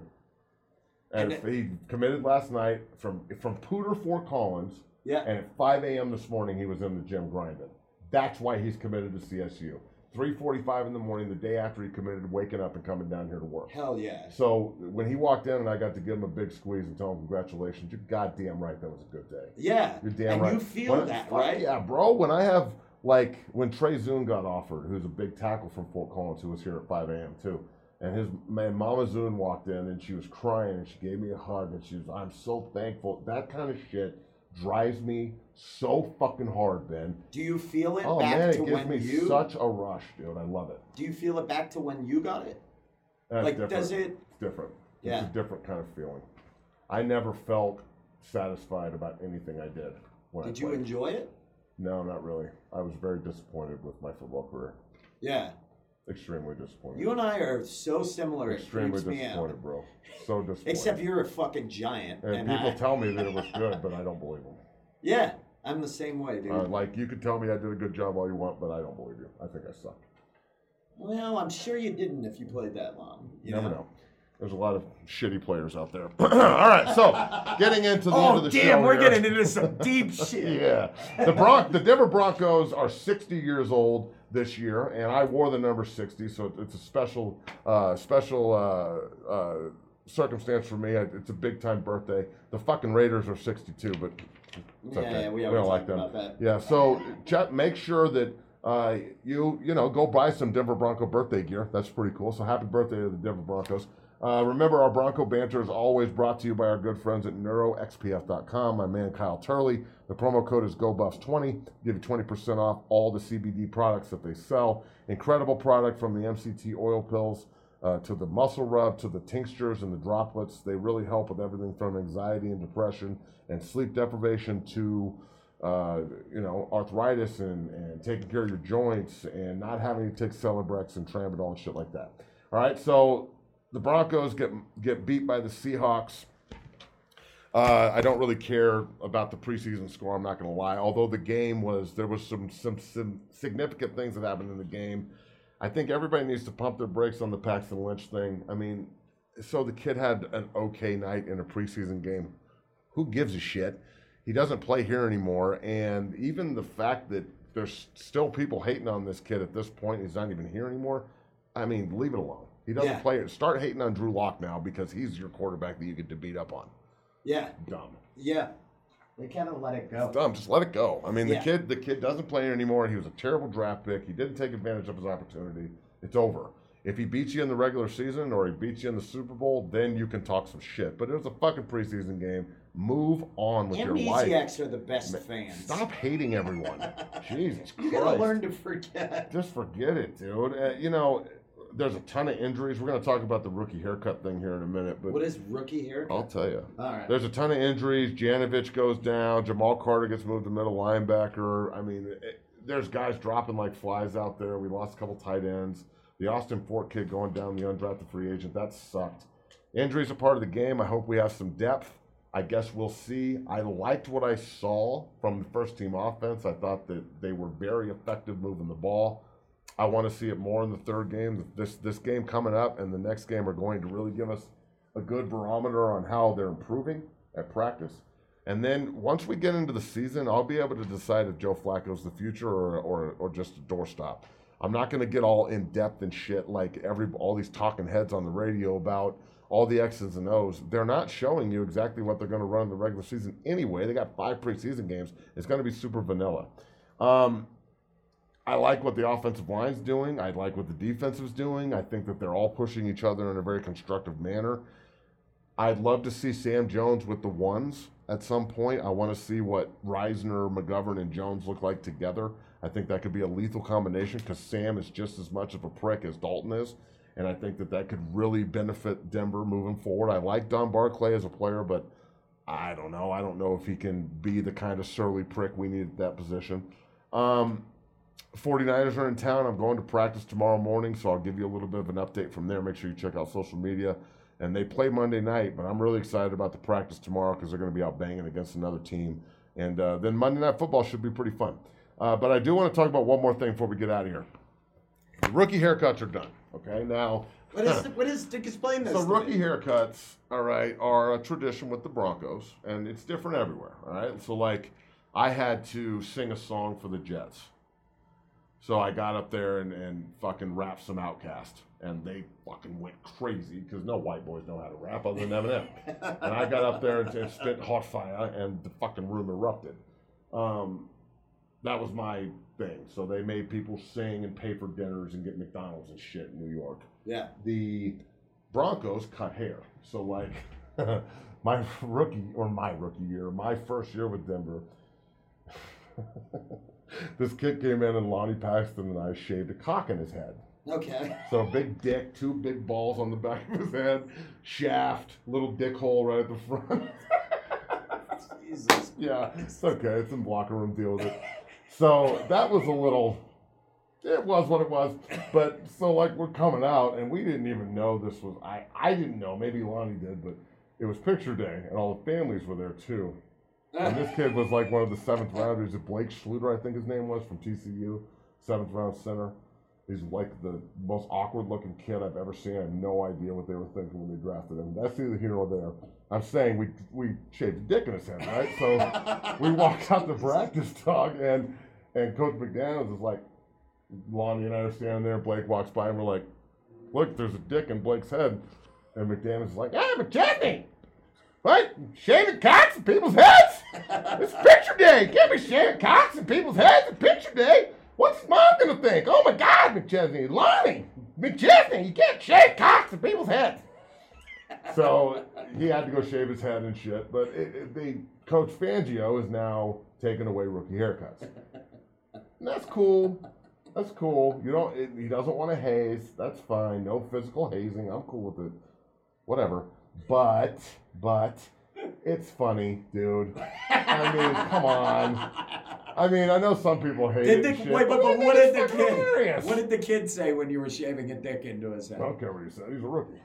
and he committed last night from Pooter Fort Collins. Yeah. And at 5 a.m. this morning, he was in the gym grinding. That's why he's committed to CSU. 3:45 in the morning, the day after he committed, waking up and coming down here to work. Hell yeah. So when he walked in and I got to give him a big squeeze and tell him congratulations, you're goddamn right that was a good day. Yeah. You're damn and right. you feel that, right? Yeah, bro. When I have, like, when Trey Zune got offered, who's a big tackle from Fort Collins, who was here at 5 a.m. too, and Mama Zune walked in and she was crying and she gave me a hug and she was, I'm so thankful. That kind of shit drives me so fucking hard, Ben. Do you feel it Oh back man, to it gives when me you? such a rush, dude. I love it. Do you feel it back to when you got it? That's Like, different. does it? It's different. Yeah. It's a different kind of feeling. I never felt satisfied about anything I did when Did I you played. enjoy it? No, not really. I was very disappointed with my football career. Yeah. Extremely disappointed. You and I are so similar. Extremely it freaks me disappointed, out. bro. So disappointed. Except you're a fucking giant. and people tell me that it was good, but I don't believe them. Yeah, I'm the same way, dude. Like, you can tell me I did a good job all you want, but I don't believe you. I think I suck. Well, I'm sure you didn't if you played that long. You Never know. There's a lot of shitty players out there. All right, so getting into the end of the show. Oh, damn, we're here. getting into some deep shit. Yeah. The Denver Broncos are 60 years old this year, and I wore the number 60, so it's a special circumstance for me. It's a big-time birthday. The fucking Raiders are 62, but it's okay. Yeah, we don't always like talk them. about that. Yeah, so make sure that you go buy some Denver Bronco birthday gear. That's pretty cool. So happy birthday to the Denver Broncos. Remember, our Bronco banter is always brought to you by our good friends at NeuroXPF.com. My man Kyle Turley. The promo code is GoBuffs20. Give you 20% off all the CBD products that they sell. Incredible product from the MCT oil pills to the muscle rub to the tinctures and the droplets. They really help with everything from anxiety and depression and sleep deprivation to arthritis and taking care of your joints and not having to take Celebrex and Tramadol and shit like that. All right, so the Broncos get beat by the Seahawks. I don't really care about the preseason score, I'm not going to lie. Although there was some significant things that happened in the game. I think everybody needs to pump their brakes on the Paxton Lynch thing. I mean, so the kid had an okay night in a preseason game. Who gives a shit? He doesn't play here anymore, and even the fact that there's still people hating on this kid at this point, he's not even here anymore. I mean, leave it alone. He doesn't play it. Start hating on Drew Lock now because he's your quarterback that you get to beat up on. Yeah. Dumb. Yeah. They kind of let it go. Dumb. Just let it go. I mean, Yeah. the kid doesn't play here anymore. He was a terrible draft pick. He didn't take advantage of his opportunity. It's over. If he beats you in the regular season or he beats you in the Super Bowl, then you can talk some shit. But it was a fucking preseason game. Move on with your life. Amnesiacs are the best fans. Stop hating everyone. Jesus You gotta Christ. learn to forget. Just forget it, dude. There's a ton of injuries. We're going to talk about the rookie haircut thing here in a minute. But What is rookie haircut? I'll tell you. All right. There's a ton of injuries. Janovich goes down. Jamal Carter gets moved to middle linebacker. I mean, there's guys dropping like flies out there. We lost a couple tight ends. The Austin Fort kid going down, the undrafted free agent. That sucked. Injuries are part of the game. I hope we have some depth. I guess we'll see. I liked what I saw from the first team offense. I thought that they were very effective moving the ball. I want to see it more in the third game. This game coming up and the next game are going to really give us a good barometer on how they're improving at practice. And then once we get into the season, I'll be able to decide if Joe Flacco's the future or just a doorstop. I'm not going to get all in depth and shit like all these talking heads on the radio about all the X's and O's. They're not showing you exactly what they're going to run in the regular season anyway. They got 5 preseason games. It's going to be super vanilla. I like what the offensive line's doing. I like what the defensive's doing. I think that they're all pushing each other in a very constructive manner. I'd love to see Sam Jones with the ones at some point. I want to see what Reisner, McGovern, and Jones look like together. I think that could be a lethal combination because Sam is just as much of a prick as Dalton is. And I think that that could really benefit Denver moving forward. I like Don Barclay as a player, but I don't know. I don't know if he can be the kind of surly prick we need at that position. 49ers are in town. I'm going to practice tomorrow morning, so I'll give you a little bit of an update from there. Make sure you check out social media. And they play Monday night, but I'm really excited about the practice tomorrow because they're going to be out banging against another team. And then Monday Night Football should be pretty fun. But I do want to talk about one more thing before we get out of here. The rookie haircuts are done. Okay, now. What is explain this? So rookie haircuts, all right, are a tradition with the Broncos, and it's different everywhere. All right, so like I had to sing a song for the Jets. So I got up there and fucking rapped some Outkast, and they fucking went crazy because no white boys know how to rap other than Eminem. And I got up there and spit hot fire, and the fucking room erupted. That was my thing. So they made people sing and pay for dinners and get McDonald's and shit in New York. Yeah. The Broncos cut hair. So like my first year with Denver, this kid came in and Lonnie Paxton and I shaved a cock in his head. Okay. So a big dick, 2 big balls on the back of his head, shaft, little dick hole right at the front. Jesus. Yeah, it's okay. It's in locker room, deal with it. So that was a little, it was what it was. But so like we're coming out and we didn't even know this was, I didn't know, maybe Lonnie did, but it was picture day and all the families were there too. And this kid was like one of the 7th rounders. Blake Schluter, I think his name was, from TCU, 7th round center. He's like the most awkward looking kid I've ever seen. I have no idea what they were thinking when they drafted him. That's neither here nor there. I'm saying we shaved a dick in his head, right? So we walk out to practice, dog, and Coach McDaniels is like, Lonnie and I are standing there. Blake walks by and we're like, look, there's a dick in Blake's head. And McDaniels is like, hey, McChesney! What? Shaving cocks in people's heads? It's picture day. You can't be shaving cocks in people's heads. It's picture day. What's his mom going to think? Oh, my God, McChesney. Lonnie, McChesney, you can't shave cocks in people's heads. So he had to go shave his head and shit. But Coach Fangio is now taking away rookie haircuts. And that's cool. That's cool. He doesn't want to haze. That's fine. No physical hazing. I'm cool with it. Whatever. But it's funny, dude. I mean, come on. I mean, I know some people hate it. Wait, but what did the kid say when you were shaving a dick into his head? I don't care what he said. He's a rookie.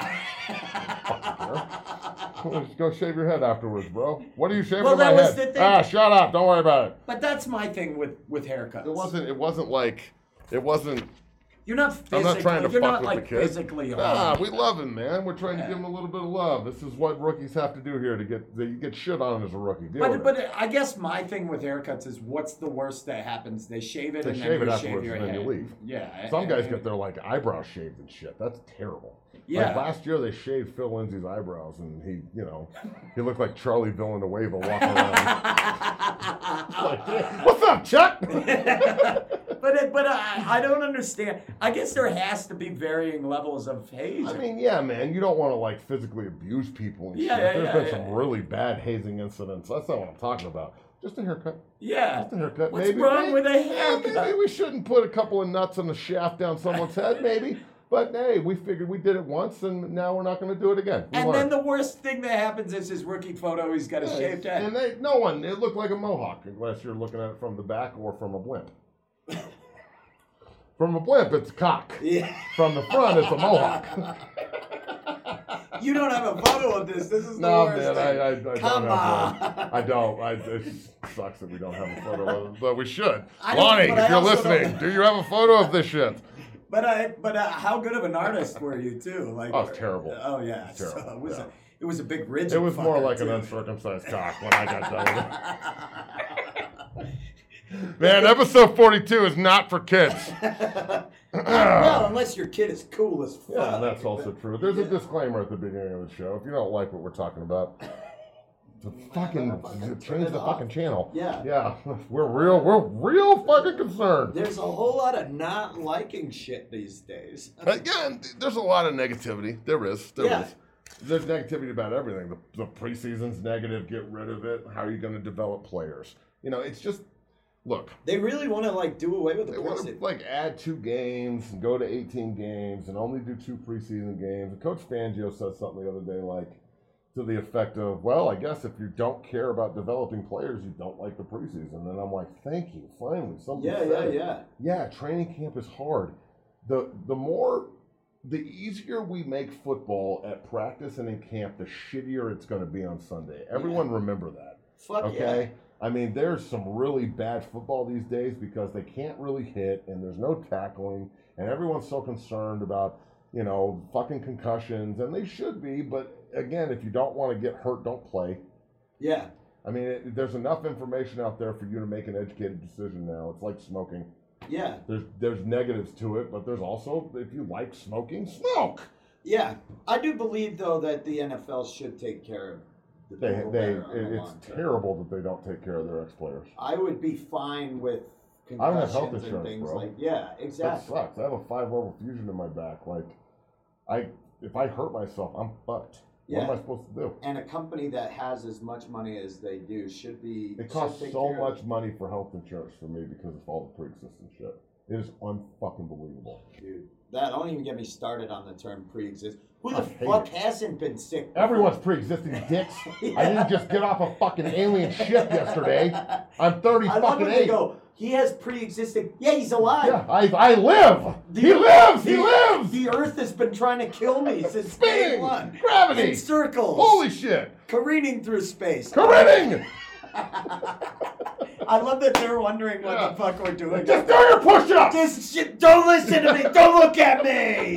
Just go shave your head afterwards, bro. What are you shaving in my head? The thing. Shut up. Don't worry about it. But that's my thing with haircuts. It wasn't. You're not physically. I'm not trying to fuck with like the kid. Physically Nah, we love him, man. We're trying to give him a little bit of love. This is what rookies have to do here you get shit on as a rookie. But I guess my thing with haircuts is what's the worst that happens? They shave it and then you shave your head. And then you leave. Yeah. Some guys get their like eyebrows shaved and shit. That's terrible. Yeah. Like last year they shaved Phil Lindsay's eyebrows and he looked like Charlie Villanueva walking around. Like, hey, what's up, Chuck? But I don't understand. I guess there has to be varying levels of hazing. I mean, yeah, man. You don't want to like physically abuse people and shit. There's been some really bad hazing incidents. That's not what I'm talking about. Just a haircut. Yeah. Just a haircut. What's wrong with a haircut? Yeah, maybe we shouldn't put a couple of nuts on the shaft down someone's head, maybe. But hey, we figured we did it once, and now we're not going to do it again. Then the worst thing that happens is his rookie photo. He's got a shaved head. And it looked like a mohawk, unless you're looking at it from the back or from a blimp. From a blimp, it's a cock. Yeah. From the front, it's a mohawk. You don't have a photo of this. This is the worst. Man, I Come on. I don't. It sucks that we don't have a photo of it, but we should. Lonnie, if you're listening, do you have a photo of this shit? But how good of an artist were you too? Like, oh, it's terrible. Oh yeah, it's terrible. So it was a big rigid. It was more like too. an uncircumcised cock when I got done with it. Man, episode 42 is not for kids. Well, unless your kid is cool as fuck. Yeah, that's also true. There's a disclaimer at the beginning of the show. If you don't like what we're talking about, to fucking change the fucking channel. Yeah. We're real fucking concerned. There's a whole lot of not liking shit these days. Yeah, there's a lot of negativity. There is. Yeah. There's negativity about everything. The preseason's negative. Get rid of it. How are you going to develop players? You know, it's just, look. They really want to like do away with the They want to preseason. like add 2 games and go to 18 games and only do 2 preseason games. And Coach Fangio said something the other day like to the effect of, well, I guess if you don't care about developing players, you don't like the preseason. And I'm like, thank you. Finally, somebody said it. Yeah, training camp is hard. The easier we make football at practice and in camp, the shittier it's going to be on Sunday. Everyone remember that. Fuck okay? I mean, there's some really bad football these days because they can't really hit and there's no tackling and everyone's so concerned about, you know, fucking concussions, and they should be, but again, if you don't want to get hurt, don't play. Yeah. I mean, there's enough information out there for you to make an educated decision now. It's like smoking. Yeah. There's negatives to it, but there's also, if you like smoking, smoke. Yeah. I do believe, though, that the NFL should take care of the people that are on the long It's term. terrible that they don't take care of their ex-players. I would be fine with I don't have health concussions and insurance, things bro. like, yeah, That exactly. sucks. I have a 5-level fusion in my back. Like, if I hurt myself, I'm fucked. What am I supposed to do? And a company that has as much money as they do should be. It costs should take so care of much money for health insurance for me because of all the pre-existing shit. It is unfucking believable. Dude, that don't even get me started on the term pre-exist. Who I the hate fuck it. hasn't been sick before? Everyone's pre-existing dicks. I didn't just get off a fucking alien ship yesterday. I'm 30 I love fucking when they 8. go, he has pre-existing. Yeah, he's alive. Yeah, I live. He lives. The Earth has been trying to kill me since day Spinning. one. Gravity. In circles. Holy shit. Careening through space. Careening. I love that they're wondering what the fuck we're doing. Just do your push-ups. This shit, don't listen to me. Don't look at me.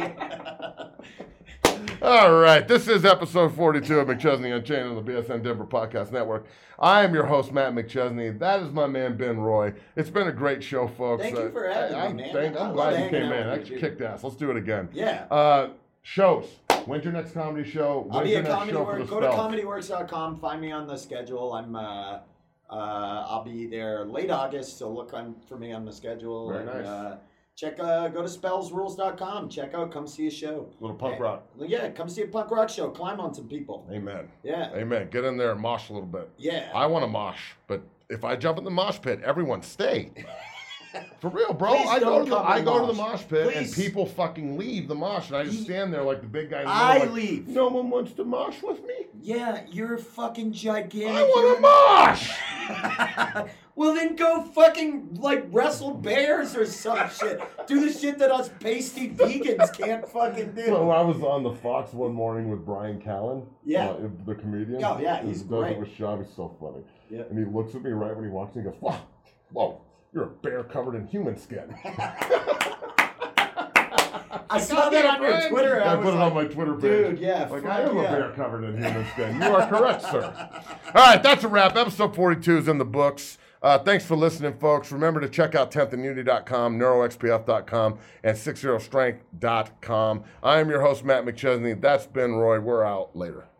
All right, this is episode 42 of McChesney Unchained on the BSN Denver Podcast Network. I am your host, Matt McChesney. That is my man, Ben Roy. It's been a great show, folks. Thank you for having me, man. I'm I glad love you came hanging in. out That with you. kicked ass. Let's do it again. Yeah. Shows. When's your next comedy show? I'll When's be your at next Comedy show for Works. the Go to Spell? comedyworks.com. Find me on the schedule. I'll be there late August, so look for me on the schedule. Very nice. Go to spellsrules.com. Check out, come see a show. Little punk rock. Yeah, come see a punk rock show. Climb on some people. Amen. Yeah. Amen. Get in there and mosh a little bit. Yeah. I want to mosh, but if I jump in the mosh pit, everyone stay. For real, bro. Please I don't come go to the mosh. mosh pit and Please. people fucking leave the mosh, and I just stand there like the big guy. in the I middle, like, leave. No one wants to mosh with me. Yeah, you're fucking gigantic. I want to mosh. Well, then go fucking, wrestle bears or some shit. Do the shit that us pasty vegans can't fucking do. So I was on the Fox one morning with Brian Callen, Yeah. the comedian. Oh, yeah, He he's does great. it with Shaw. He's so funny. Yeah. And he looks at me right when he walks in. He goes, "Whoa, you're a bear covered in human skin." I saw that on your Twitter. I was put it like, on my Twitter page. Dude, yeah, Like, fuck I am yeah. a bear covered in human skin. You are correct, sir. All right, that's a wrap. Episode 42 is in the books. Thanks for listening, folks. Remember to check out 10thandunity.com, neuroxpf.com, and 60strength.com. I am your host, Matt McChesney. That's Ben Roy. We're out. Later.